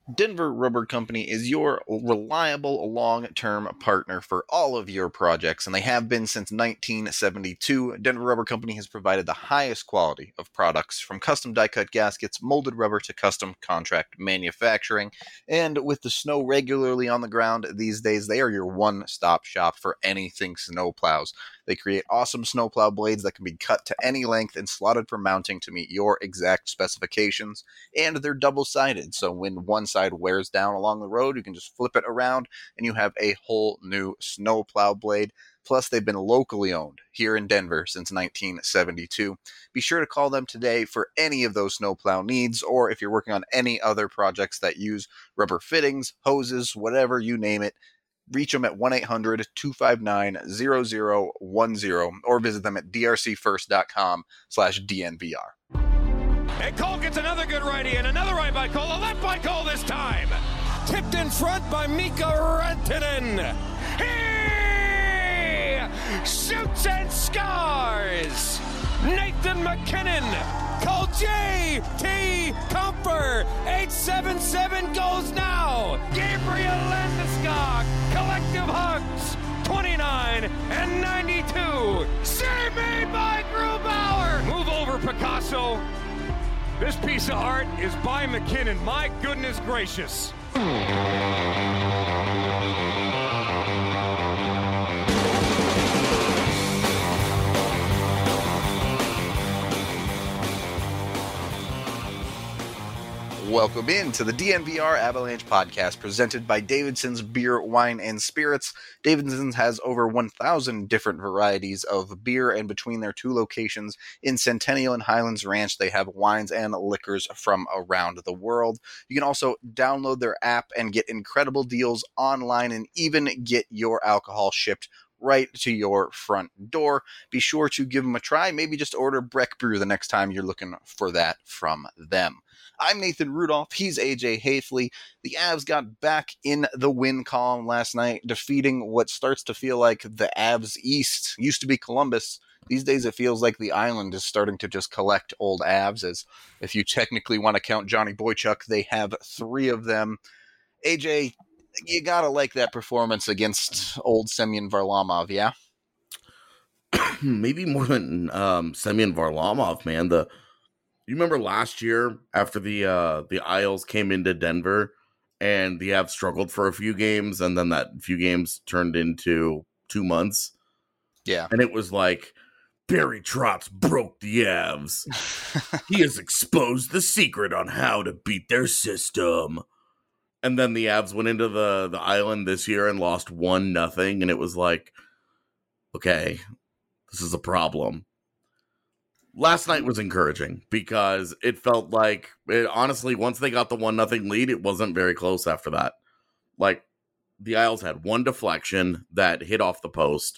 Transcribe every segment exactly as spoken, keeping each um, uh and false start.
Denver Rubber Company is your reliable long-term partner for all of your projects, and they have been since nineteen seventy-two. Denver Rubber Company has provided the highest quality of products, from custom die-cut gaskets, molded rubber, to custom contract manufacturing. And with the snow regularly on the ground these days, they are your one-stop shop for anything snowplows. They create awesome snowplow blades that can be cut to any length and slotted for mounting to meet your exact specifications. And they're double-sided, so when one side wears down along the road, you can just flip it around and you have a whole new snowplow blade. Plus, they've been locally owned here in Denver since nineteen seventy-two. Be sure to call them today for any of those snowplow needs, or if you're working on any other projects that use rubber fittings, hoses, whatever, you name it. Reach them at one eight hundred two five nine zero zero one zero or visit them at d r c first dot com slash d n v r. And Cole gets another good righty and another right by Cole, a left by Cole this time. Tipped in front by Mika Rantanen. He shoots and scores. Nathan MacKinnon. Cole J T Comfer. eight seven seven goes now. Gabriel Landeskog. Collective hugs. twenty-nine and ninety-two. Save made by Grubauer. Move over, Picasso. This piece of art is by MacKinnon. My goodness gracious. Welcome in to the D N V R Avalanche podcast presented by Davidson's Beer, Wine, and Spirits. Davidson's has over one thousand different varieties of beer, and between their two locations in Centennial and Highlands Ranch, they have wines and liquors from around the world. You can also download their app and get incredible deals online and even get your alcohol shipped right to your front door. Be sure to give them a try. Maybe just order Breck Brew the next time you're looking for that from them. I'm Nathan Rudolph. He's A J Hafley. The Avs got back in the win column last night, defeating what starts to feel like the Avs East. Used to be Columbus. These days it feels like the island is starting to just collect old Avs, as if you technically want to count Johnny Boychuk, they have three of them. A J, you gotta like that performance against old Semyon Varlamov, yeah? Maybe more than um, Semyon Varlamov, man. The You remember last year after the uh, the Isles came into Denver and the Avs struggled for a few games, and then that few games turned into two months? Yeah. And it was like, Barry Trotz broke the Avs. He has exposed the secret on how to beat their system. And then the Avs went into the, the island this year and lost one nothing, and it was like, okay, this is a problem. Last night was encouraging because it felt like, it, honestly, once they got the one nothing lead, it wasn't very close after that. Like, the Isles had one deflection that hit off the post,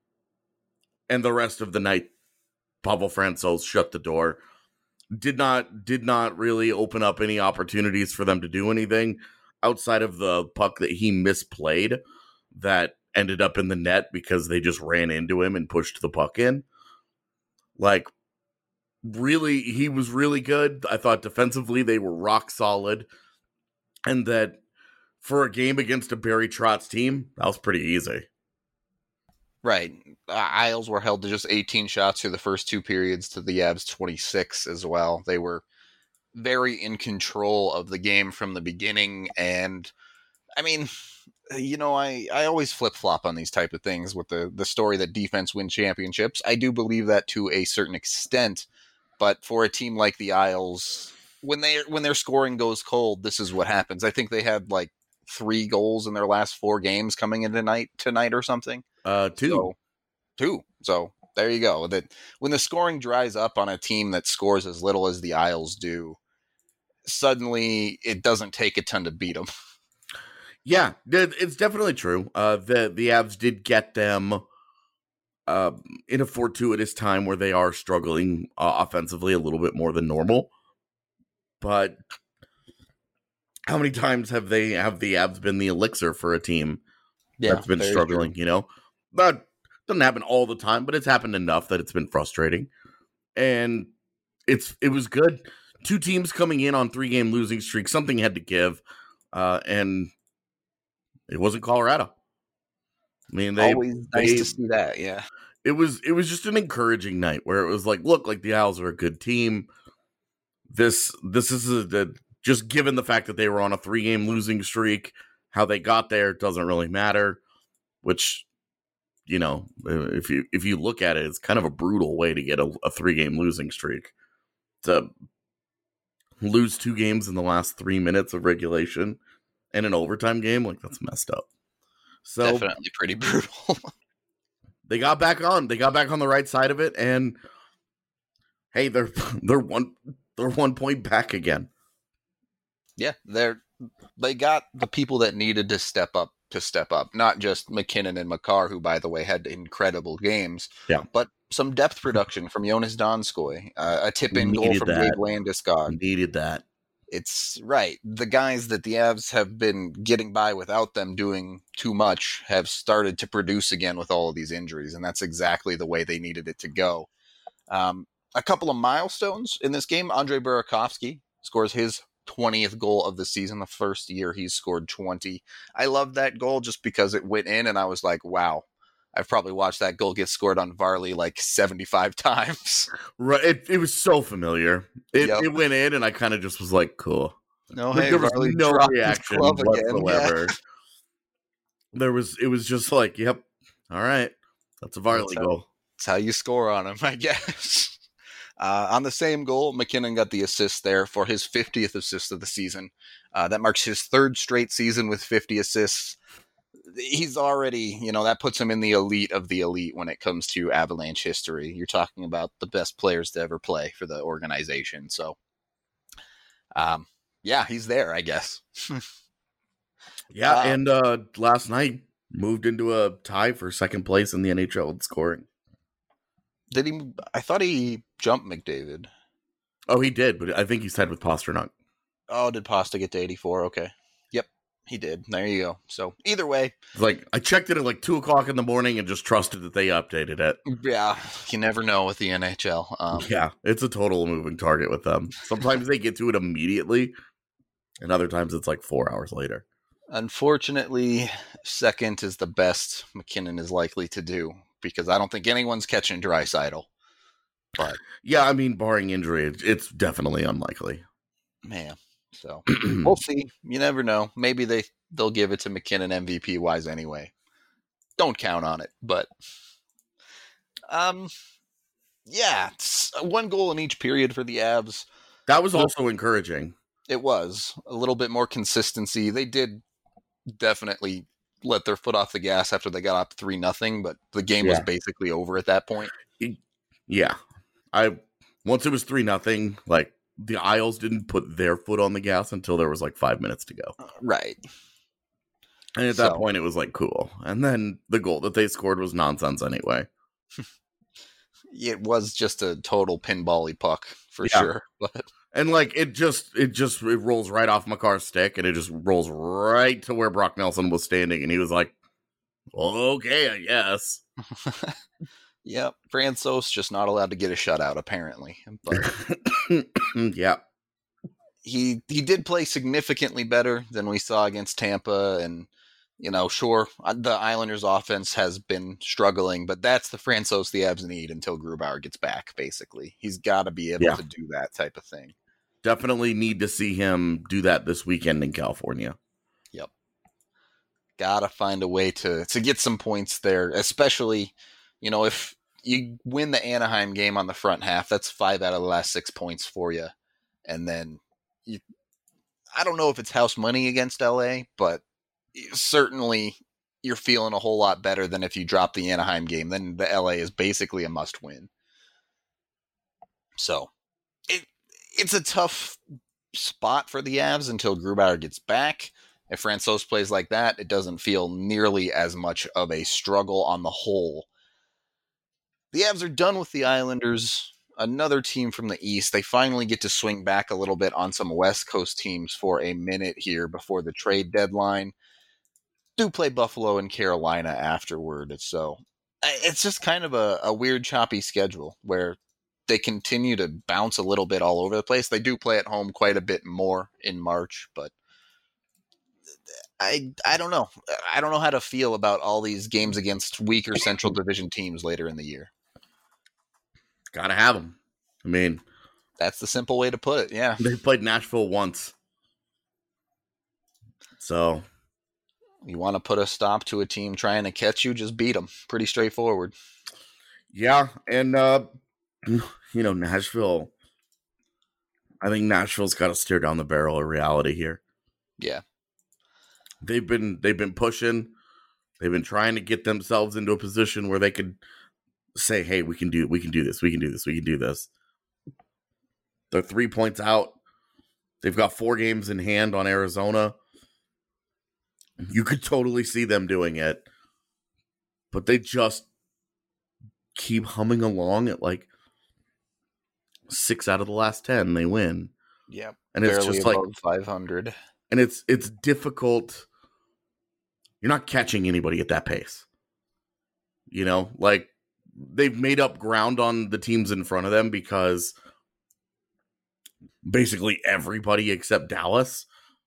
and the rest of the night, Pavel Francouz shut the door. Did not, did not really open up any opportunities for them to do anything outside of the puck that he misplayed that ended up in the net because they just ran into him and pushed the puck in. Like, really, he was really good. I thought defensively they were rock solid, and that for a game against a Barry Trotz team, that was pretty easy. Right. Uh, Isles were held to just eighteen shots through the first two periods to the Avs twenty-six as well. They were very in control of the game from the beginning, and I mean, you know, I, I always flip-flop on these type of things with the, the story that defense wins championships. I do believe that to a certain extent, but for a team like the Isles, when they when their scoring goes cold, this is what happens. I think they had like three goals in their last four games coming in tonight tonight or something. Uh, two. So, two. So there you go. That when the scoring dries up on a team that scores as little as the Isles do, suddenly it doesn't take a ton to beat them. Yeah, it's definitely true. Uh, the the Avs did get them uh, in a fortuitous time where they are struggling uh, offensively a little bit more than normal. But how many times have they have the Avs been the elixir for a team Yeah, that's been struggling? True. You know, that doesn't happen all the time, but it's happened enough that it's been frustrating. And it's it was good. Two teams coming in on three game losing streak. Something had to give. uh, and it wasn't Colorado. I mean, they Always nice they, to see that, yeah. It was it was just an encouraging night where it was like, look, like the Owls are a good team. This this is a, a, just given the fact that they were on a three game losing streak, how they got there doesn't really matter. Which, you know, if you if you look at it, it's kind of a brutal way to get a, a three game losing streak. To lose two games in the last three minutes of regulation and an overtime game, like that's messed up. So definitely pretty brutal. They got back on. They got back on the right side of it, and hey, they're they're one they're one point back again. Yeah, they're they got the people that needed to step up to step up. Not just McKinnon and Makar, who, by the way, had incredible games. Yeah, but some depth production from Jonas Donskoy, uh, a tip-in goal from Gabe Landeskog. Needed that. It's right. The guys that the Avs have been getting by without them doing too much have started to produce again with all of these injuries, and that's exactly the way they needed it to go. Um, a couple of milestones in this game. Andrei Burakovsky scores his twentieth goal of the season, the first year he's scored twenty. I love that goal just because it went in, and I was like, wow. I've probably watched that goal get scored on Varley like seventy-five times. Right, it, it was so familiar. It, yep. it went in, and I kind of just was like, "Cool." No, like, hey, there was Varley no reaction whatsoever. Yeah. There was, it was just like, "Yep, all right, that's a Varley that's goal." How, that's how you score on him, I guess. Uh, on the same goal, McKinnon got the assist there for his fiftieth assist of the season. Uh, that marks his third straight season with fifty assists. He's already, you know, that puts him in the elite of the elite when it comes to Avalanche history. You're talking about the best players to ever play for the organization. So, um, yeah, he's there, I guess. yeah, uh, and uh, last night moved into a tie for second place in the N H L in scoring. Did he? I thought he jumped McDavid. Oh, he did, but I think he's tied with Pastrnak. Oh, did Pasta get to eighty-four? Okay. Yep, he did. There you go. So either way. Like, I checked it at like two o'clock in the morning and just trusted that they updated it. Yeah, you never know with the N H L. Um, yeah, it's a total moving target with them. Sometimes they get to it immediately, and other times it's like four hours later. Unfortunately, second is the best McKinnon is likely to do, because I don't think anyone's catching Draisaitl. But yeah, I mean, barring injury, it's definitely unlikely. Man, so we'll see. You never know. Maybe they they'll give it to McKinnon M V P wise anyway. Don't count on it, but um, yeah, it's one goal in each period for the Avs. That was also encouraging. It was a little bit more consistency. They did definitely let their foot off the gas after they got up three nothing, but the game yeah. was basically over at that point. Yeah. I once it was three nothing, like the Isles didn't put their foot on the gas until there was like five minutes to go. Right. And at that so. point it was like cool. And then the goal that they scored was nonsense anyway. It was just a total pinball-y puck for yeah. sure. But and like it just it just it rolls right off Makar's stick and it just rolls right to where Brock Nelson was standing, and he was like, okay, I guess. Yep, Francouz just not allowed to get a shutout apparently. But yeah, he he did play significantly better than we saw against Tampa, and you know, sure, the Islanders' offense has been struggling, but that's the Francouz the Avs need until Grubauer gets back. Basically, he's got to be able yeah. to do that type of thing. Definitely need to see him do that this weekend in California. Yep, gotta find a way to to get some points there, especially. You know, if you win the Anaheim game on the front half, that's five out of the last six points for you. And then you, I don't know if it's house money against L A, but certainly you're feeling a whole lot better than if you drop the Anaheim game. Then the L A is basically a must win. So it it's a tough spot for the Avs until Grubauer gets back. If Francouz plays like that, it doesn't feel nearly as much of a struggle on the whole. The Avs are done with the Islanders, another team from the East. They finally get to swing back a little bit on some West Coast teams for a minute here before the trade deadline. Do play Buffalo and Carolina afterward. So it's just kind of a, a weird, choppy schedule where they continue to bounce a little bit all over the place. They do play at home quite a bit more in March, but I I don't know. I don't know how to feel about all these games against weaker Central Division teams later in the year. Gotta have them. I mean, that's the simple way to put it. Yeah, they played Nashville once, so you want to put a stop to a team trying to catch you, just beat them. Pretty straightforward. Yeah, and uh, you know, Nashville. I think Nashville's got to steer down the barrel of reality here. Yeah. They've been they've been pushing, they've been trying to get themselves into a position where they could say, "Hey, we can do we can do this, we can do this, we can do this." They're three points out. They've got four games in hand on Arizona. You could totally see them doing it, but they just keep humming along at like six out of the last ten. They win. Yep, and it's barely just like five hundred. And it's it's difficult. You're not catching anybody at that pace. You know, like they've made up ground on the teams in front of them because basically everybody except Dallas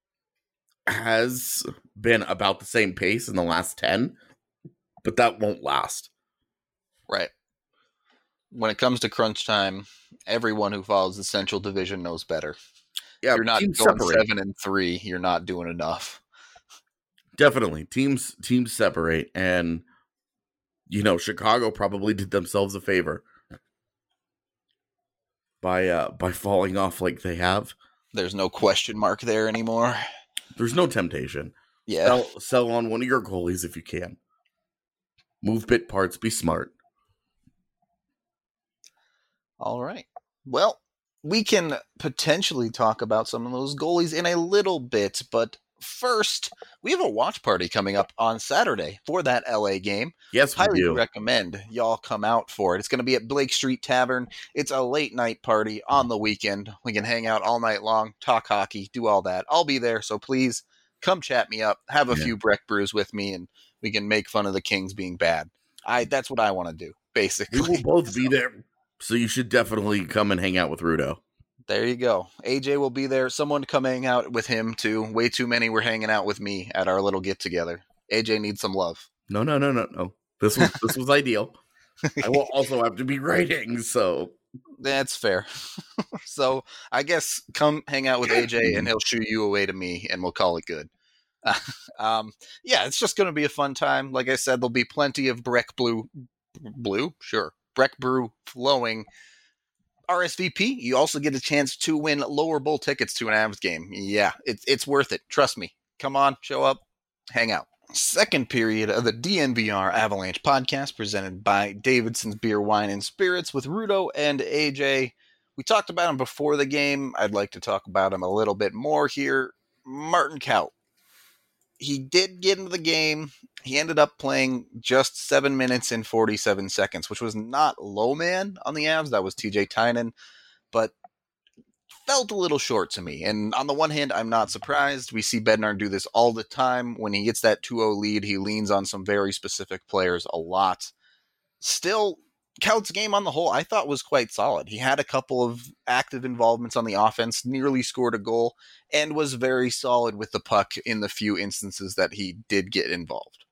has been about the same pace in the last ten, but that won't last. Right. When it comes to crunch time, everyone who follows the Central Division knows better. Yeah, you're not going separate. seven and three. You're not doing enough. Definitely, teams teams separate, and you know Chicago probably did themselves a favor by uh, by falling off like they have. There's no question mark there anymore. There's no temptation. Yeah, sell, sell on one of your goalies if you can. Move bit parts. Be smart. All right. Well, we can potentially talk about some of those goalies in a little bit, but first, we have a watch party coming up on Saturday for that L A game. Yes, we Highly do. recommend y'all come out for it. It's going to be at Blake Street Tavern. It's a late night party on the weekend. We can hang out all night long, talk hockey, do all that. I'll be there, so please come chat me up, have a yeah. few Breck brews with me, and we can make fun of the Kings being bad. I That's what I want to do, basically. We will both be there. So you should definitely come and hang out with Rudo. There you go. A J will be there. Someone come hang out with him, too. Way too many were hanging out with me at our little get-together. A J needs some love. No, no, no, no, no. This was this was ideal. I will also have to be writing, so... That's fair. So I guess come hang out with A J, and he'll shoo you away to me, and we'll call it good. Uh, um, yeah, it's just going to be a fun time. Like I said, there'll be plenty of Breck Blue. Blue? Sure. Breck Brew flowing. R S V P, you also get a chance to win lower bowl tickets to an Avs game. Yeah, it's it's worth it. Trust me. Come on, show up, hang out. Second period of the D N V R Avalanche podcast presented by Davidson's Beer, Wine, and Spirits with Rudo and A J. We talked about him before the game. I'd like to talk about him a little bit more here. Martin Kaut. He did get into the game. He ended up playing just seven minutes and forty-seven seconds, which was not low man on the Avs. That was T J Tynan, but felt a little short to me. And on the one hand, I'm not surprised. We see Bednar do this all the time. When he gets that two oh lead, he leans on some very specific players a lot. Still, Kaut's game on the whole, I thought was quite solid. He had a couple of active involvements on the offense, nearly scored a goal, and was very solid with the puck in the few instances that he did get involved.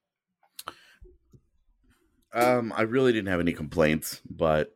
Um, I really didn't have any complaints, but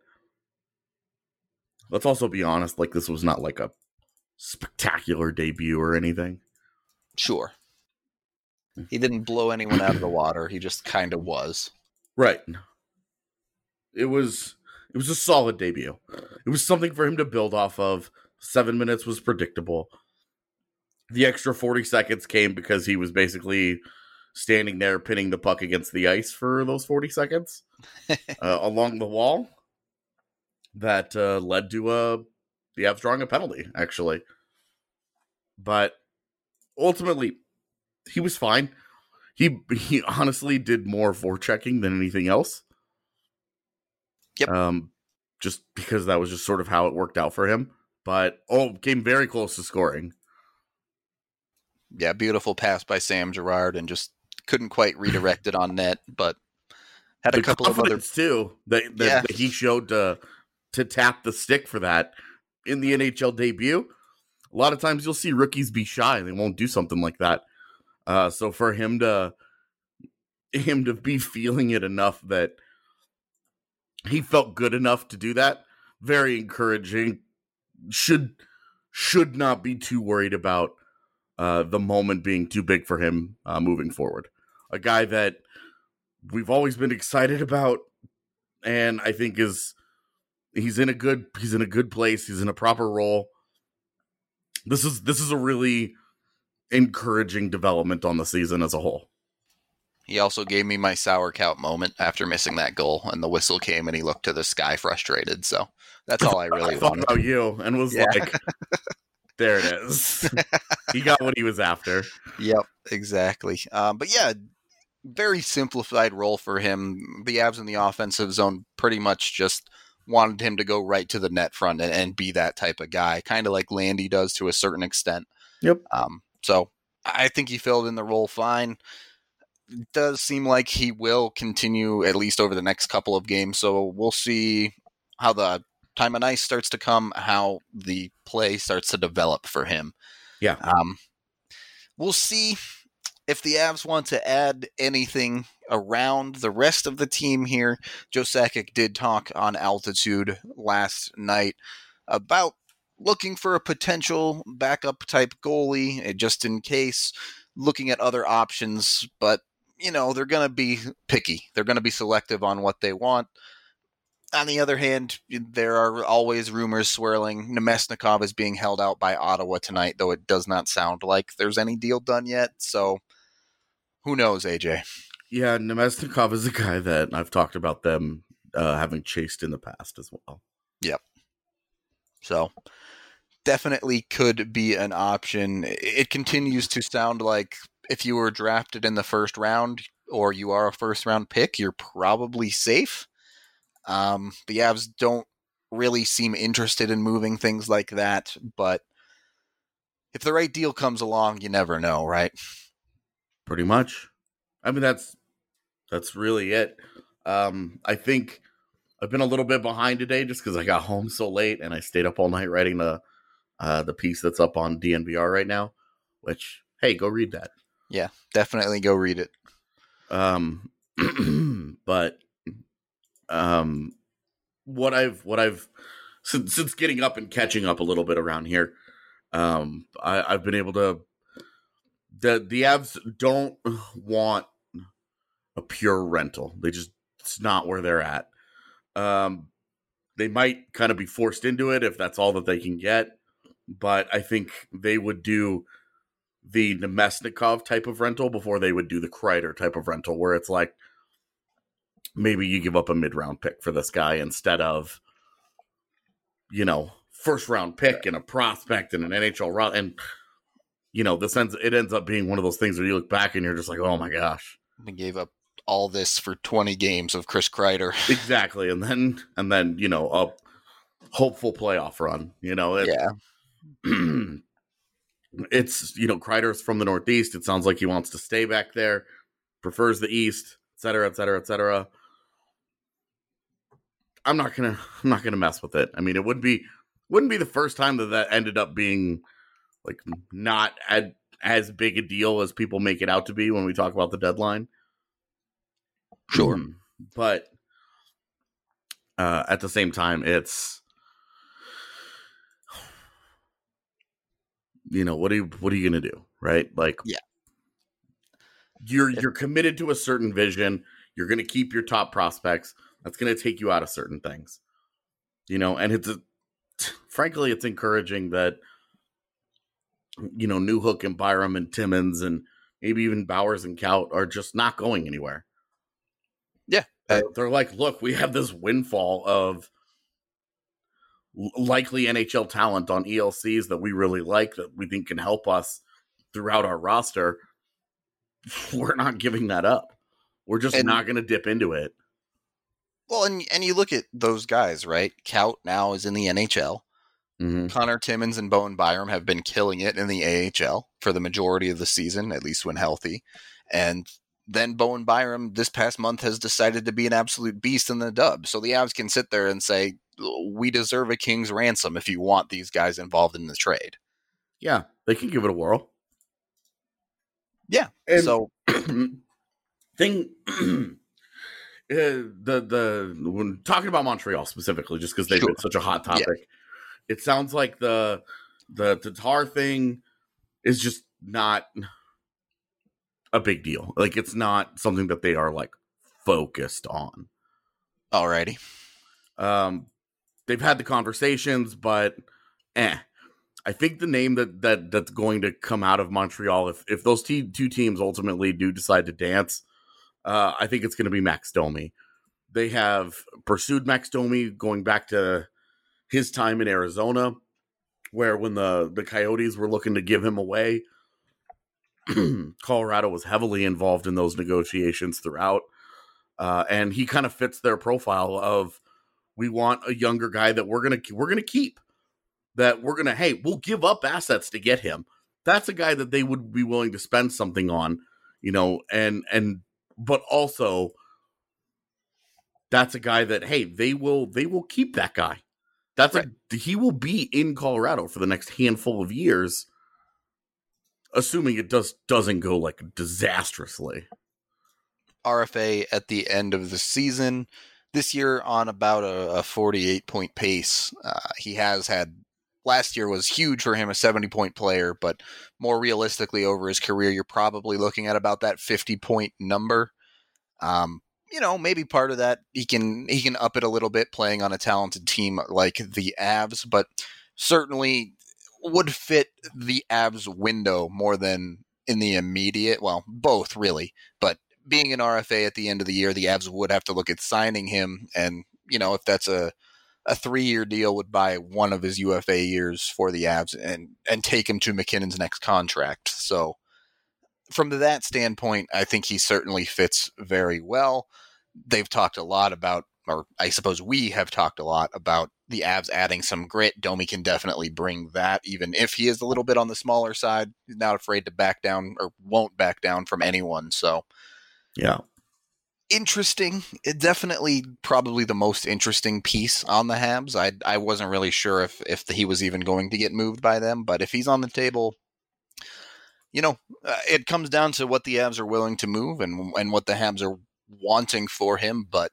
let's also be honest, like this was not like a spectacular debut or anything. Sure. He didn't blow anyone out of the water. He just kind of was. Right. It was it was a solid debut. It was something for him to build off of. Seven minutes was predictable. The extra forty seconds came because he was basically standing there pinning the puck against the ice for those forty seconds uh, along the wall. That uh, led to uh, the Avs drawing a penalty, actually. But ultimately, he was fine. He he honestly did more forechecking than anything else. Yep. Um, just because that was just sort of how it worked out for him. But, oh, came very close to scoring. Yeah, beautiful pass by Sam Girard and just couldn't quite redirect it on net, but had a the couple of other... too, that, that, yeah. that he showed to, to tap the stick for that in the N H L debut. A lot of times you'll see rookies be shy. They won't do something like that. Uh, so for him to him to be feeling it enough that he felt good enough to do that, very encouraging. Should should not be too worried about uh, the moment being too big for him uh, moving forward. A guy that we've always been excited about, and I think is he's in a good he's in a good place. He's in a proper role. This is this is a really encouraging development on the season as a whole. He also gave me my sauerkraut moment after missing that goal, and the whistle came, and he looked to the sky frustrated. So that's all I really I thought wanted. about you and was Yeah. like, there it is. He got what he was after. Yep, exactly. Um, but yeah, very simplified role for him. The Avs in the offensive zone pretty much just wanted him to go right to the net front and, and be that type of guy, kind of like Landy does to a certain extent. Yep. Um, so I think he filled in the role fine. It does seem like he will continue at least over the next couple of games. So we'll see how the time of ice starts to come, how the play starts to develop for him. Yeah. Um, we'll see if the Avs want to add anything around the rest of the team here. Joe Sakic did talk on Altitude last night about looking for a potential backup type goalie, just in case, looking at other options. But, you know, they're going to be picky. They're going to be selective on what they want. On the other hand, there are always rumors swirling. Nemesnikov is being held out by Ottawa tonight, though it does not sound like there's any deal done yet. So who knows, A J? Yeah, Nemesnikov is a guy that I've talked about them uh, having chased in the past as well. Yep. So definitely could be an option. It continues to sound like if you were drafted in the first round or you are a first round pick, you're probably safe. Um, the Avs don't really seem interested in moving things like that, but if the right deal comes along, you never know, right? Pretty much. I mean, that's that's really it. Um, I think I've been a little bit behind today just because I got home so late and I stayed up all night writing the uh, the piece that's up on D N V R right now. Which, hey, go read that. Yeah, definitely go read it. Um, but um, what I've what I've since since getting up and catching up a little bit around here, um, I, I've been able to. The the Avs don't want a pure rental. They just it's not where they're at. Um, they might kind of be forced into it if that's all that they can get, but I think they would do the Nemesnikov type of rental before they would do the Kreider type of rental, where it's like maybe you give up a mid round pick for this guy instead of, you know, first round pick and a prospect and an N H L route. And, you know, this ends, it ends up being one of those things where you look back and you're just like, oh my gosh. We gave up all this for twenty games of Chris Kreider. Exactly. And then, and then, you know, a hopeful playoff run, you know, it, yeah. It's, you know, Kreider's from the Northeast. It sounds like he wants to stay back there, prefers the East, et cetera, et cetera, et cetera. I'm not gonna, I'm not gonna mess with it. I mean, it would be, wouldn't be the first time that that ended up being like not as, as big a deal as people make it out to be when we talk about the deadline. Sure, but uh, at the same time, it's. You know, what are you what are you gonna do, right? Like, yeah, you're you're committed to a certain vision. You're gonna keep your top prospects. That's gonna take you out of certain things, you know. And it's a, frankly, it's encouraging that, you know, Newhook and Byram and Timmins and maybe even Bowers and Kaut are just not going anywhere. Yeah, they're, they're like, look, we have this windfall of likely N H L talent on E L Cs that we really like, that we think can help us throughout our roster. We're not giving that up. We're just and, not going to dip into it. Well, and and you look at those guys, right? Kaut now is in the N H L. Mm-hmm. Connor Timmins and Bowen Byram have been killing it in the A H L for the majority of the season, at least when healthy. And then Bowen Byram this past month has decided to be an absolute beast in the dub. So the Avs can sit there and say, we deserve a king's ransom if you want these guys involved in the trade. Yeah, they can give it a whirl. Yeah. And so thing uh, the the when talking about Montreal specifically, just because they've Sure. been such a hot topic, Yeah. it sounds like the the Tatar thing is just not a big deal. Like, it's not something that they are like focused on. Alrighty. Um, they've had the conversations, but eh. I think the name that, that that's going to come out of Montreal, if if those te- two teams ultimately do decide to dance, uh, I think it's going to be Max Domi. They have pursued Max Domi going back to his time in Arizona, where when the, the Coyotes were looking to give him away, Colorado was heavily involved in those negotiations throughout. Uh, and he kind of fits their profile of, we want a younger guy that we're going to we're going to keep. That we're going to, hey, we'll give up assets to get him. That's a guy that they would be willing to spend something on, you know, and, and, but also that's a guy that, hey, they will, they will keep that guy. That's right. a, he will be in Colorado for the next handful of years, assuming it does, doesn't go like disastrously. R F A at the end of the season this year on about a, a forty-eight point pace. Uh, he has had, last year was huge for him, a seventy point player, but more realistically over his career, you're probably looking at about that fifty point number. Um, you know, maybe part of that, he can he can up it a little bit playing on a talented team like the Avs, but certainly would fit the Avs window more than in the immediate, well, both really, but being an R F A at the end of the year, the Avs would have to look at signing him, and, you know, if that's a a three-year deal, would buy one of his U F A years for the Avs and, and take him to McKinnon's next contract. So from that standpoint, I think he certainly fits very well. They've talked a lot about, or I suppose we have talked a lot about the Avs adding some grit. Domi can definitely bring that, even if he is a little bit on the smaller side. He's not afraid to back down, or won't back down from anyone. So yeah. Interesting. It definitely probably the most interesting piece on the Habs. I I wasn't really sure if, if he was even going to get moved by them, but if he's on the table, you know, uh, it comes down to what the Habs are willing to move and and what the Habs are wanting for him, but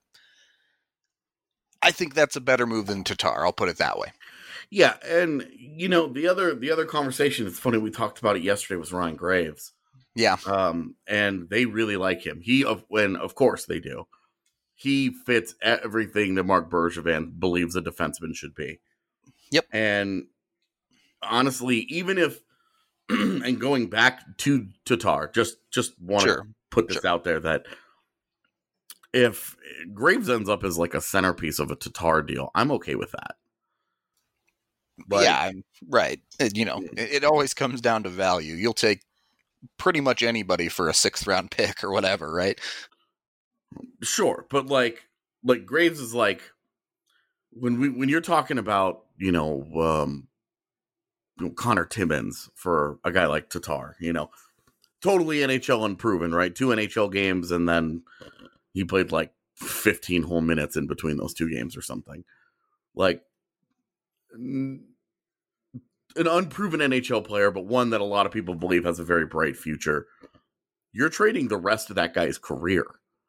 I think that's a better move than Tatar. I'll put it that way. Yeah, and you know, the other the other conversation, it's funny, we talked about it yesterday, was Ryan Graves. Yeah. Um, and they really like him. He, of when of course they do. He fits everything that Marc Bergevin believes a defenseman should be. Yep. And honestly, even if, and going back to Tatar, just just want Sure. to put this Sure. out there that if Graves ends up as like a centerpiece of a Tatar deal, I'm okay with that. But, yeah, I'm, right. It, you know, it, it always comes down to value. You'll take pretty much anybody for a sixth round pick or whatever, right? Sure, but like like Graves is like, when we when you're talking about, you know, um Connor Timmins for a guy like Tatar, you know, totally N H L unproven, right? Two N H L games, and then he played like fifteen whole minutes in between those two games or something. Like, an unproven N H L player, but one that a lot of people believe has a very bright future. You're trading the rest of that guy's career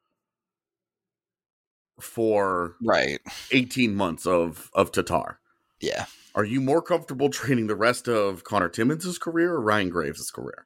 for right eighteen months of, of Tatar. Yeah. Are you more comfortable trading the rest of Connor Timmins' career or Ryan Graves' career?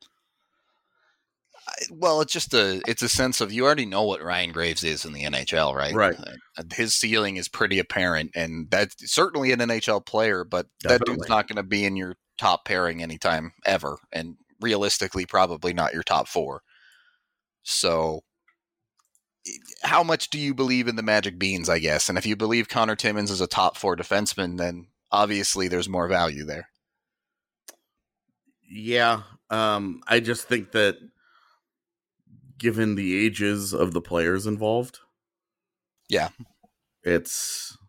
Well, it's just a it's a sense of, you already know what Ryan Graves is in the N H L, right? Right. His ceiling is pretty apparent, and that's certainly an N H L player, but Definitely. That dude's not going to be in your top pairing anytime ever, and realistically, probably not your top four. So, how much do you believe in the Magic Beans, I guess? And if you believe Connor Timmins is a top four defenseman, then obviously there's more value there. Yeah. Um, I just think that given the ages of the players involved, yeah, it's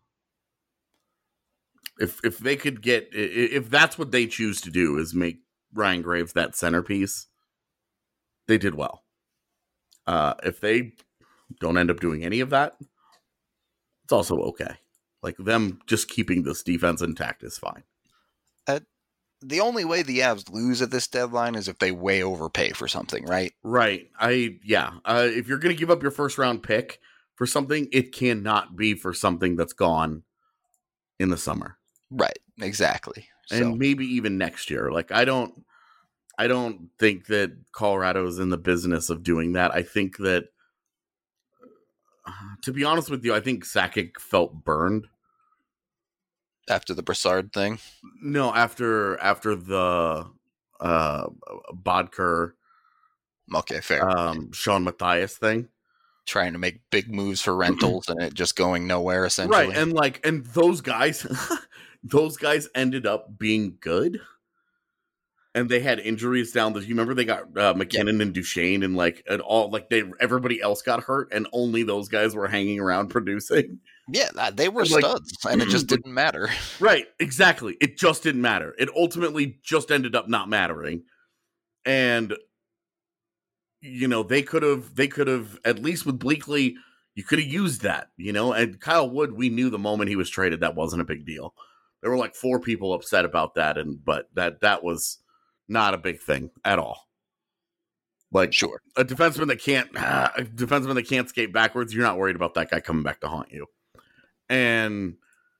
if if they could get if that's what they choose to do is make Ryan Graves that centerpiece, they did well. Uh, if they don't end up doing any of that, it's also okay. Like, them just keeping this defense intact is fine. Uh, the only way the Avs lose at this deadline is if they way overpay for something, right? Right. I yeah. Uh, if you're going to give up your first round pick for something, it cannot be for something that's gone in the summer. Right. Exactly. And So. maybe even next year. Like I don't I don't think that Colorado is in the business of doing that. I think that uh, to be honest with you, I think Sakic felt burned After the Brassard thing? No, after after the uh Bodker Okay, fair. um Sean Matthias thing. Trying to make big moves for rentals and it just going nowhere, essentially. Right, and like and those guys those guys ended up being good. And they had injuries down the you remember they got uh, McKinnon yeah. and Duchesne and like and all like they everybody else got hurt and only those guys were hanging around producing. Yeah, they were and studs, like, and it just didn't matter. Right, exactly. It just didn't matter. It ultimately just ended up not mattering. And, you know, they could have, they could have, at least with Bleakley, you could have used that, you know? And Kyle Wood, we knew the moment he was traded, that wasn't a big deal. There were like four people upset about that, and but that that was not a big thing at all. Like, sure, a defenseman that can't, uh, a defenseman that can't skate backwards, you're not worried about that guy coming back to haunt you. And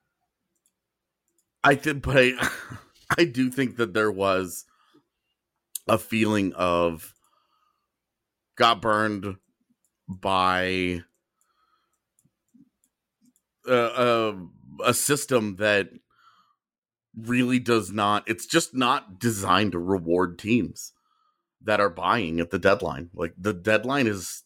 I did, but I, I do think that there was a feeling of got burned by a, a, a system that really does not, it's just not designed to reward teams that are buying at the deadline. Like the deadline is,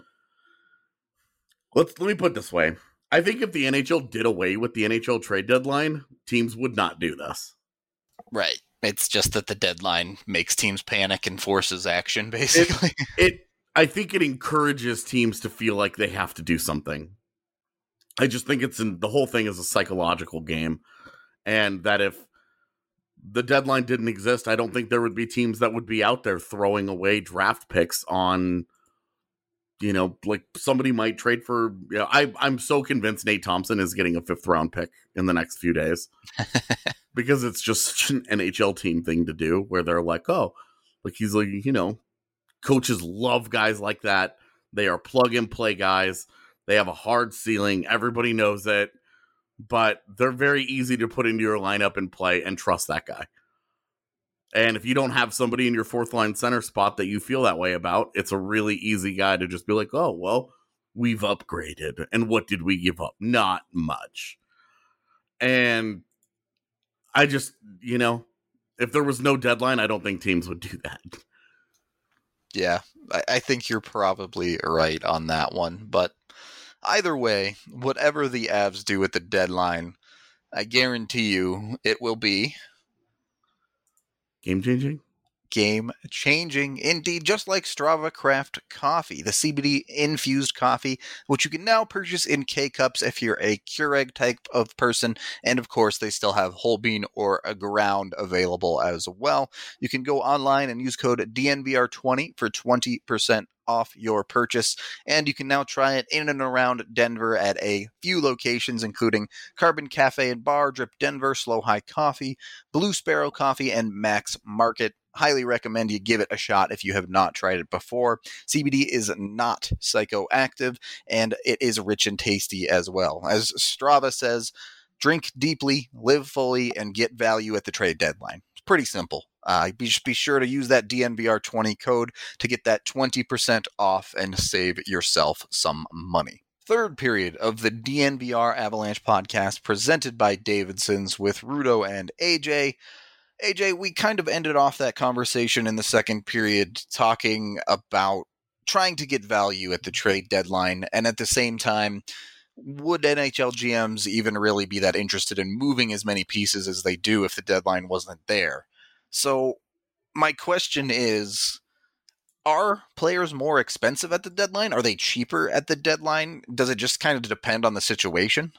let's, let me put it this way. I think if the N H L did away with the N H L trade deadline, teams would not do this. Right. It's just that the deadline makes teams panic and forces action, basically. It, it I think it encourages teams to feel like they have to do something. I just think it's in, the whole thing is a psychological game. And that if the deadline didn't exist, I don't think there would be teams that would be out there throwing away draft picks on, you know, like somebody might trade for, you know, I, I'm so convinced Nate Thompson is getting a fifth round pick in the next few days because it's just such an N H L team thing to do where they're like, oh, like he's like, you know, coaches love guys like that. They are plug and play guys. They have a hard ceiling. Everybody knows it, but they're very easy to put into your lineup and play and trust that guy. And if you don't have somebody in your fourth line center spot that you feel that way about, it's a really easy guy to just be like, oh, well, we've upgraded. And what did we give up? Not much. And I just, you know, if there was no deadline, I don't think teams would do that. Yeah, I, I think you're probably right on that one. But either way, whatever the Avs do at the deadline, I guarantee you it will be game-changing? Game-changing, indeed, just like Strava Craft Coffee, the C B D-infused coffee, which you can now purchase in K-Cups if you're a Keurig type of person, and of course, they still have whole bean or a ground available as well. You can go online and use code D N V R twenty for twenty percent off your purchase, and you can now try it in and around Denver at a few locations, including Carbon Cafe and Bar, Drip Denver, Slow High Coffee, Blue Sparrow Coffee, and Max Market. Highly recommend you give it a shot if you have not tried it before. C B D is not psychoactive, and it is rich and tasty as well. As Strava says, drink deeply, live fully, and get value at the trade deadline. It's pretty simple. Uh, be, just be sure to use that D N V R twenty code to get that twenty percent off and save yourself some money. Third period of the D N V R Avalanche podcast presented by Davidson's with Rudo and A J. A J, we kind of ended off that conversation in the second period talking about trying to get value at the trade deadline, and at the same time, would N H L G Ms even really be that interested in moving as many pieces as they do if the deadline wasn't there? So my question is, are players more expensive at the deadline? Are they cheaper at the deadline? Does it just kind of depend on the situation?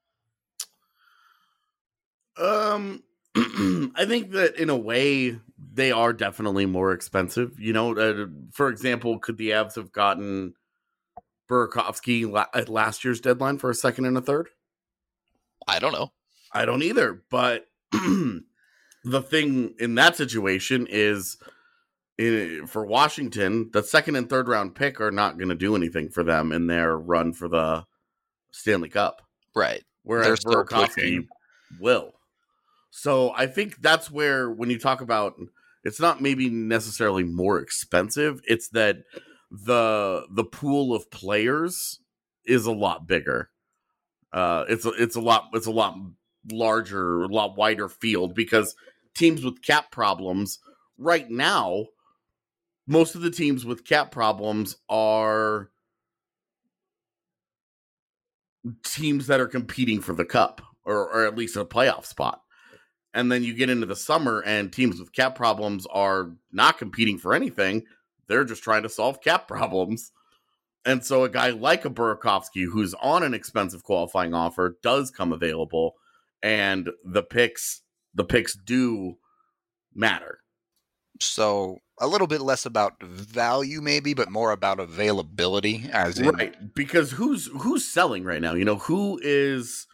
Um... I think that in a way they are definitely more expensive. You know, uh, for example, could the Avs have gotten Burakovsky la- at last year's deadline for a second and a third? I don't know. I don't either. But the thing in that situation is, in, for Washington, the second and third round pick are not going to do anything for them in their run for the Stanley Cup. Right. Whereas Burakovsky will. So I think that's where, when you talk about, it's not maybe necessarily more expensive, it's that the the pool of players is a lot bigger. Uh, it's a, it's a lot it's a lot larger, a lot wider field, because teams with cap problems right now, most of the teams with cap problems are teams that are competing for the cup, or, or at least a playoff spot. And then you get into the summer and teams with cap problems are not competing for anything. They're just trying to solve cap problems. And so a guy like a Burakovsky, who's on an expensive qualifying offer, does come available, and the picks, the picks do matter. So a little bit less about value, maybe, but more about availability, as in, right? Because who's who's selling right now? You know, who is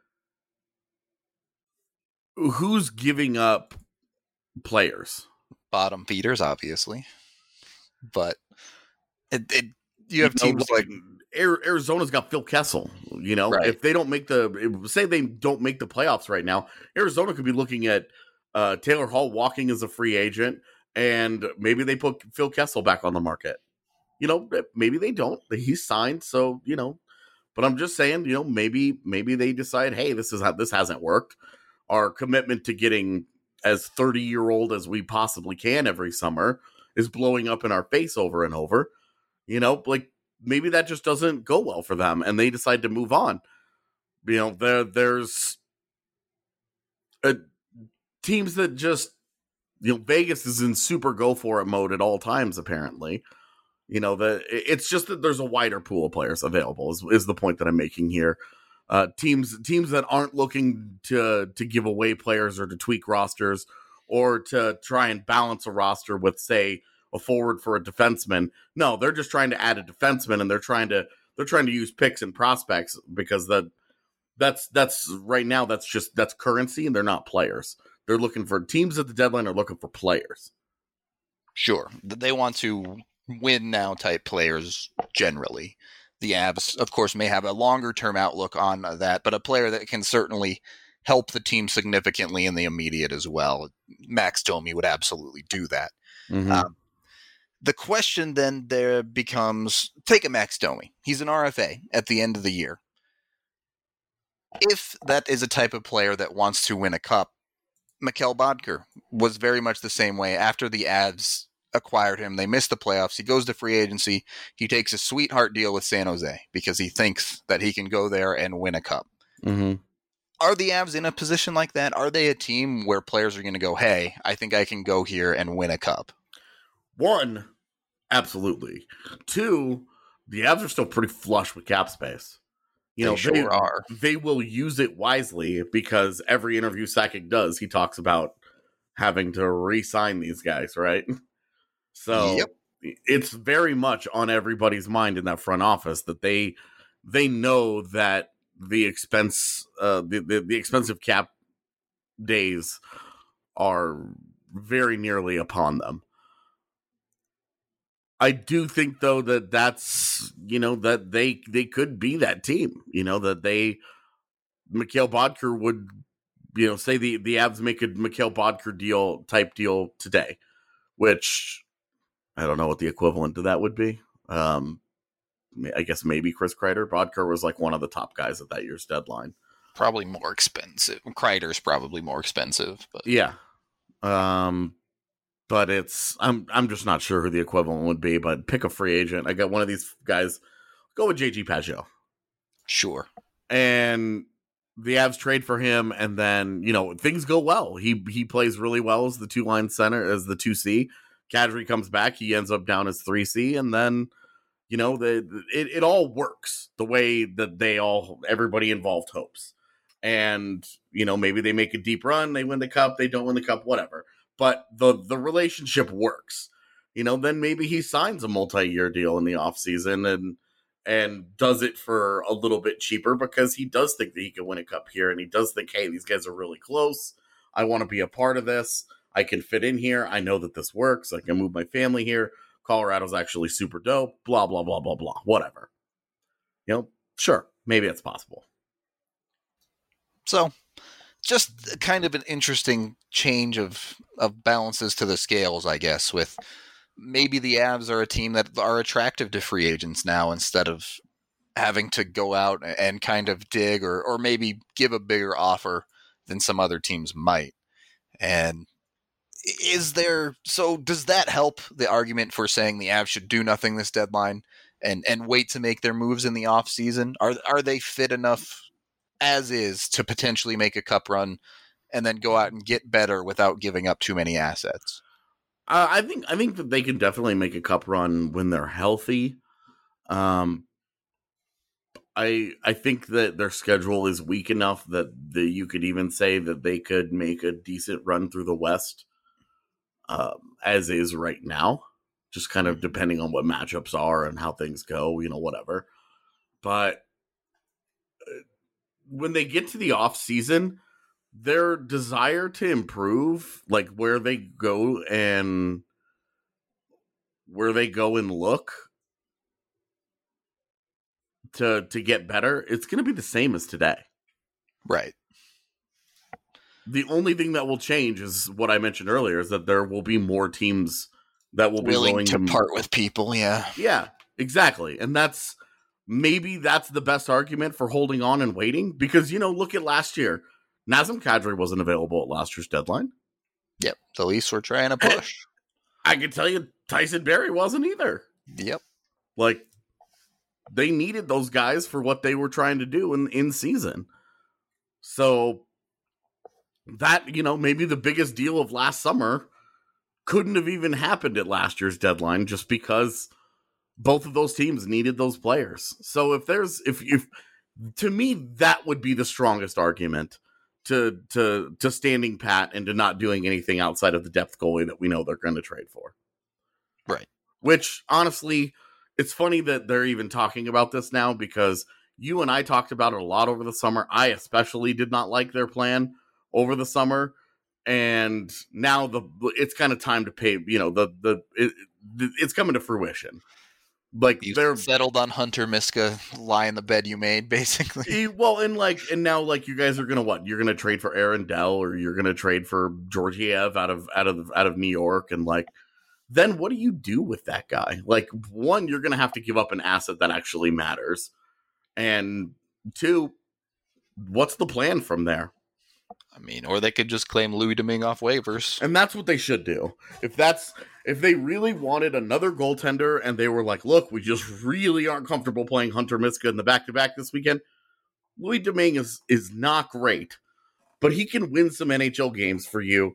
who's giving up players? Bottom feeders, obviously, but it, it you have you know, teams like, like Arizona's got Phil Kessel. You know, right. If they don't make the say they don't make the playoffs right now, Arizona could be looking at uh, Taylor Hall walking as a free agent, and maybe they put Phil Kessel back on the market. You know, maybe they don't. He's signed, so you know. But I'm just saying, you know, maybe maybe they decide, hey, this is how this hasn't worked. Our commitment to getting as thirty year old as we possibly can every summer is blowing up in our face over and over. You know, like maybe that just doesn't go well for them, and they decide to move on. You know, there there's a, teams that just, you know, Vegas is in super go for it mode at all times. Apparently, you know, that it's just that there's a wider pool of players available. Is is the point that I'm making here. Uh, teams teams that aren't looking to to give away players or to tweak rosters or to try and balance a roster with, say, a forward for a defenseman. No, they're just trying to add a defenseman, and they're trying to they're trying to use picks and prospects, because that that's that's right now that's just that's currency, and they're not players. They're looking for teams at the deadline are looking for players. Sure, they want to win now type players generally. The Avs, of course, may have a longer-term outlook on that, but a player that can certainly help the team significantly in the immediate as well. Max Domi would absolutely do that. Mm-hmm. Um, the question then there becomes, take a Max Domi. He's an R F A at the end of the year. If that is a type of player that wants to win a cup, Mikkel Boedker was very much the same way. After the Avs acquired him, they missed the playoffs. He goes to free agency. He takes a sweetheart deal with San Jose because he thinks that he can go there and win a cup. Mm-hmm. Are the Avs in a position like that? Are they a team where players are going to go, hey, I think I can go here and win a cup? One, absolutely. Two, the Avs are still pretty flush with cap space. You they know, sure they, are. They will use it wisely, because every interview Sakic does, he talks about having to re-sign these guys, right? So yep. It's very much on everybody's mind in that front office that they they know that the expense uh, the, the the expensive cap days are very nearly upon them. I do think, though, that that's, you know, that they they could be that team. You know, that they Mikkel Boedker would, you know, say the the Avs make a Mikkel Boedker deal type deal today, which I don't know what the equivalent to that would be. Um, I guess maybe Chris Kreider. Boedker was like one of the top guys at that year's deadline. Probably more expensive. Kreider's probably more expensive, but yeah. Um, but it's I'm I'm just not sure who the equivalent would be. But pick a free agent. I got one of these guys. Go with J G Pageau. Sure. And the Avs trade for him, and then, you know, things go well. He he plays really well as the two line center, as the two C. Kadri comes back, he ends up down as three C, and then, you know, the it, it all works the way that they all, everybody involved hopes. And, you know, maybe they make a deep run, they win the cup, they don't win the cup, whatever. But the the relationship works. You know, then maybe he signs a multi-year deal in the offseason and and does it for a little bit cheaper, because he does think that he can win a cup here, and he does think, hey, these guys are really close. I want to be a part of this. I can fit in here. I know that this works. I can move my family here. Colorado's actually super dope. Blah, blah, blah, blah, blah. Whatever. You know, sure. Maybe it's possible. So, just kind of an interesting change of, of balances to the scales, I guess, with maybe the Avs are a team that are attractive to free agents now instead of having to go out and kind of dig or, or maybe give a bigger offer than some other teams might. And is there, so does that help the argument for saying the Avs should do nothing this deadline and, and wait to make their moves in the off season? Are, are they fit enough as is to potentially make a cup run and then go out and get better without giving up too many assets? Uh, I think, I think that they can definitely make a cup run when they're healthy. Um, I I think that their schedule is weak enough that the, you could even say that they could make a decent run through the West, um, as is right now, just kind of depending on what matchups are and how things go, you know, whatever. But when they get to the off season, their desire to improve, like where they go and where they go and look to to get better, it's going to be the same as today. Right. The only thing that will change is what I mentioned earlier, is that there will be more teams that will be willing, willing to to part with people. Yeah. Yeah, exactly. And that's maybe that's the best argument for holding on and waiting, because, you know, look at last year. Nazem Kadri wasn't available at last year's deadline. Yep. The Leafs were trying to push. I can tell you Tyson Barrie wasn't either. Yep. Like, they needed those guys for what they were trying to do in, in season. So that, you know, maybe the biggest deal of last summer couldn't have even happened at last year's deadline, just because both of those teams needed those players. So if there's, if, if to me, that would be the strongest argument to, to, to standing pat and to not doing anything outside of the depth goalie that we know they're going to trade for. Right. Which, honestly, it's funny that they're even talking about this now, because you and I talked about it a lot over the summer. I especially did not like their plan over the summer. And now the it's kind of time to pay, you know, the, the, it, it's coming to fruition. Like, you they're settled on Hunter Miska, lie in the bed you made, basically. Well, and like, and now like you guys are gonna what? You're gonna trade for Aaron Dell, or you're gonna trade for Georgiev out of out of out of New York, and like, then what do you do with that guy? Like, one, you're gonna have to give up an asset that actually matters, and two, what's the plan from there? I mean, or they could just claim Louis Domingue off waivers. And that's what they should do. If that's if they really wanted another goaltender and they were like, look, we just really aren't comfortable playing Hunter Miska in the back-to-back this weekend, Louis Domingue is, is not great, but he can win some N H L games for you.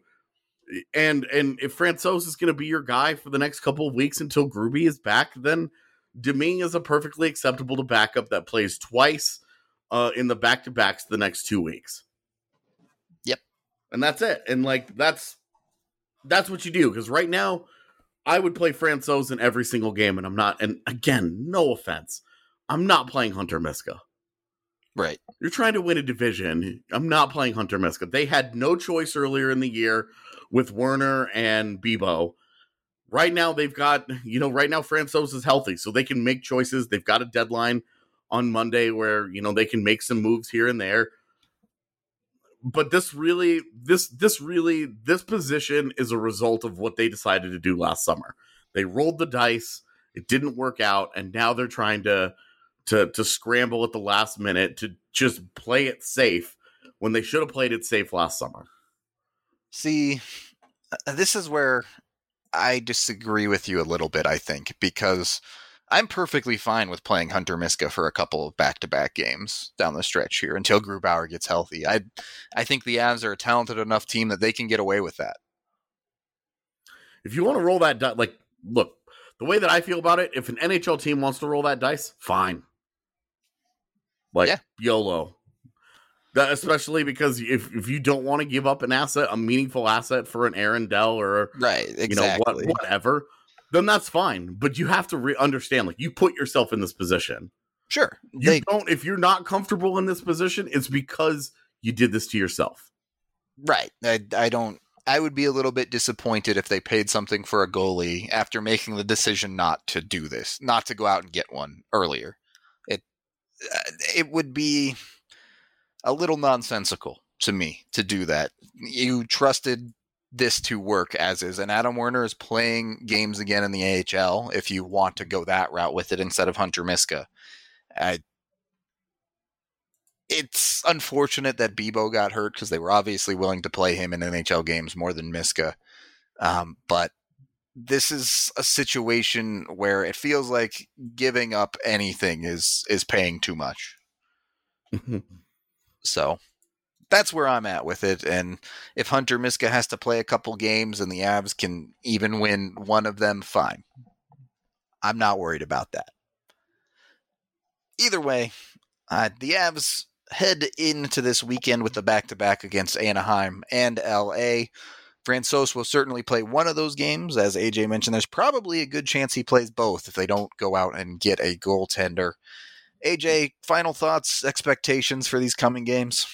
And and if Francouz is going to be your guy for the next couple of weeks until Gruby is back, then Domingue is a perfectly acceptable to backup that plays twice uh, in the back-to-backs the next two weeks. Yep. And that's it. And like, that's that's what you do. Because right now, I would play Francouz in every single game, and I'm not. And again, no offense, I'm not playing Hunter Miska. Right. You're trying to win a division. I'm not playing Hunter Miska. They had no choice earlier in the year with Werner and Bibo. Right now, they've got, you know, right now Francouz is healthy, so they can make choices. They've got a deadline on Monday where, you know, they can make some moves here and there. But this really, this, this really, this position is a result of what they decided to do last summer. They rolled the dice. It didn't work out. And now they're trying to, to, to scramble at the last minute to just play it safe when they should have played it safe last summer. See, this is where I disagree with you a little bit, I think, because I'm perfectly fine with playing Hunter Miska for a couple of back-to-back games down the stretch here until Grubauer gets healthy. I I think the Avs are a talented enough team that they can get away with that. If you want to roll that dice, like, look, the way that I feel about it, if an N H L team wants to roll that dice, fine. Like, yeah. YOLO. That, especially because if, if you don't want to give up an asset, a meaningful asset for an Aaron Dell or, right, exactly. you know, what, whatever, then that's fine. But you have to re- understand, like, you put yourself in this position. Sure. You they, don't, if you're not comfortable in this position, it's because you did this to yourself. Right. I, I don't. I would be a little bit disappointed if they paid something for a goalie after making the decision not to do this, not to go out and get one earlier. It it would be a little nonsensical to me to do that. You trusted this to work as is, and Adam Werner is playing games again in the A H L if you want to go that route with it instead of Hunter Miska. I, it's unfortunate that Bibo got hurt because they were obviously willing to play him in N H L games more than Miska. Um, but this is a situation where it feels like giving up anything is is paying too much. So that's where I'm at with it. And if Hunter Miska has to play a couple games and the Avs can even win one of them, fine. I'm not worried about that. Either way, uh, the Avs head into this weekend with the back-to-back against Anaheim and L A. Francouz will certainly play one of those games. As A J mentioned, there's probably a good chance he plays both if they don't go out and get a goaltender. A J, final thoughts, expectations for these coming games?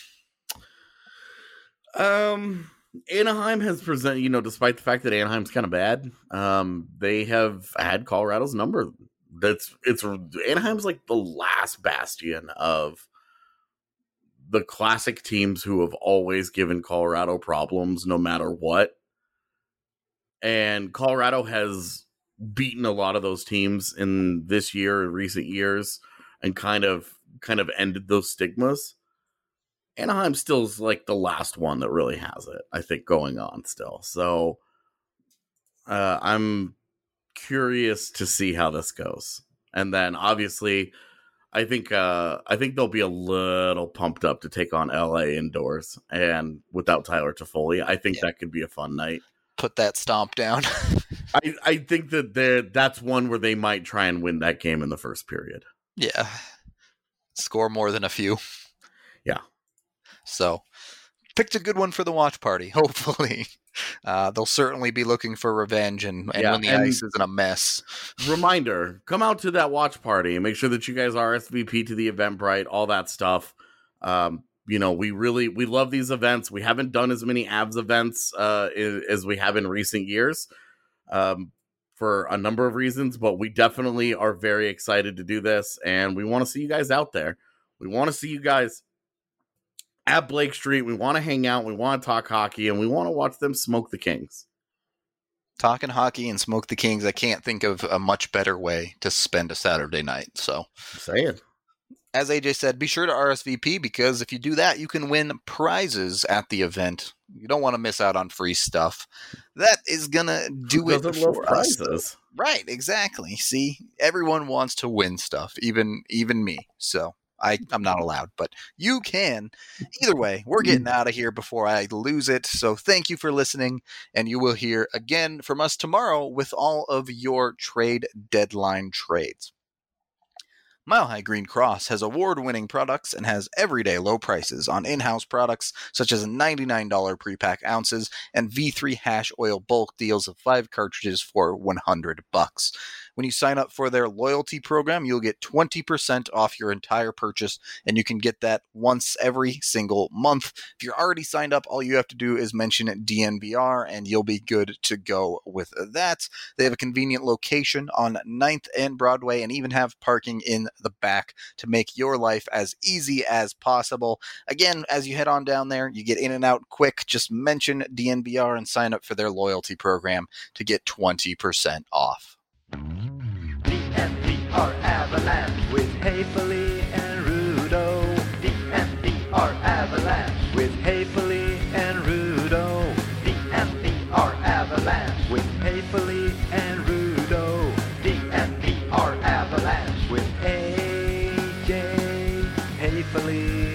Um, Anaheim has presented, you know, despite the fact that Anaheim's kind of bad, um, they have had Colorado's number. That's it's Anaheim's like the last bastion of the classic teams who have always given Colorado problems no matter what. And Colorado has beaten a lot of those teams in this year, in recent years, and kind of kind of ended those stigmas. Anaheim still is like the last one that really has it, I think, going on still. So uh, I'm curious to see how this goes. And then obviously I think uh, I think they'll be a little pumped up to take on L A indoors and without Tyler Toffoli. I think yeah. that could be a fun night. Put that stomp down. I, I think that they're, that's one where they might try and win that game in the first period. Yeah. Score more than a few. Yeah. So, picked a good one for the watch party, hopefully. Uh, they'll certainly be looking for revenge and, and yeah, when the and ice isn't a mess. Reminder, come out to that watch party and make sure that you guys R S V P to the Eventbrite, all that stuff. Um, you know, we really, we love these events. We haven't done as many Avs events uh, as we have in recent years um, for a number of reasons, but we definitely are very excited to do this, and we want to see you guys out there. We want to see you guys at Blake Street. We want to hang out, we want to talk hockey, and we want to watch them smoke the Kings. Talking hockey and smoke the Kings, I can't think of a much better way to spend a Saturday night. So, I'm saying. As A J said, be sure to R S V P, because if you do that, you can win prizes at the event. You don't want to miss out on free stuff. That is going to do Who it doesn't for love prizes? us. Right, exactly. See, everyone wants to win stuff, even even me. So I, I'm not allowed, but you can. Either way, we're getting out of here before I lose it. So thank you for listening, and you will hear again from us tomorrow with all of your trade deadline trades. Mile High Green Cross has award-winning products and has everyday low prices on in-house products such as ninety-nine dollars pre-pack ounces and V three hash oil bulk deals of five cartridges for one hundred bucks. When you sign up for their loyalty program, you'll get twenty percent off your entire purchase, and you can get that once every single month. If you're already signed up, all you have to do is mention D N V R, and you'll be good to go with that. They have a convenient location on ninth and Broadway, and even have parking in the back to make your life as easy as possible. Again, as you head on down there, you get in and out quick. Just mention D N V R and sign up for their loyalty program to get twenty percent off. D N V R Avalanche with Haefele and Rudo. D N V R Avalanche with Haefele and Rudo. D N V R Avalanche with Haefele and Rudo. D N V R Avalanche with A J Haefele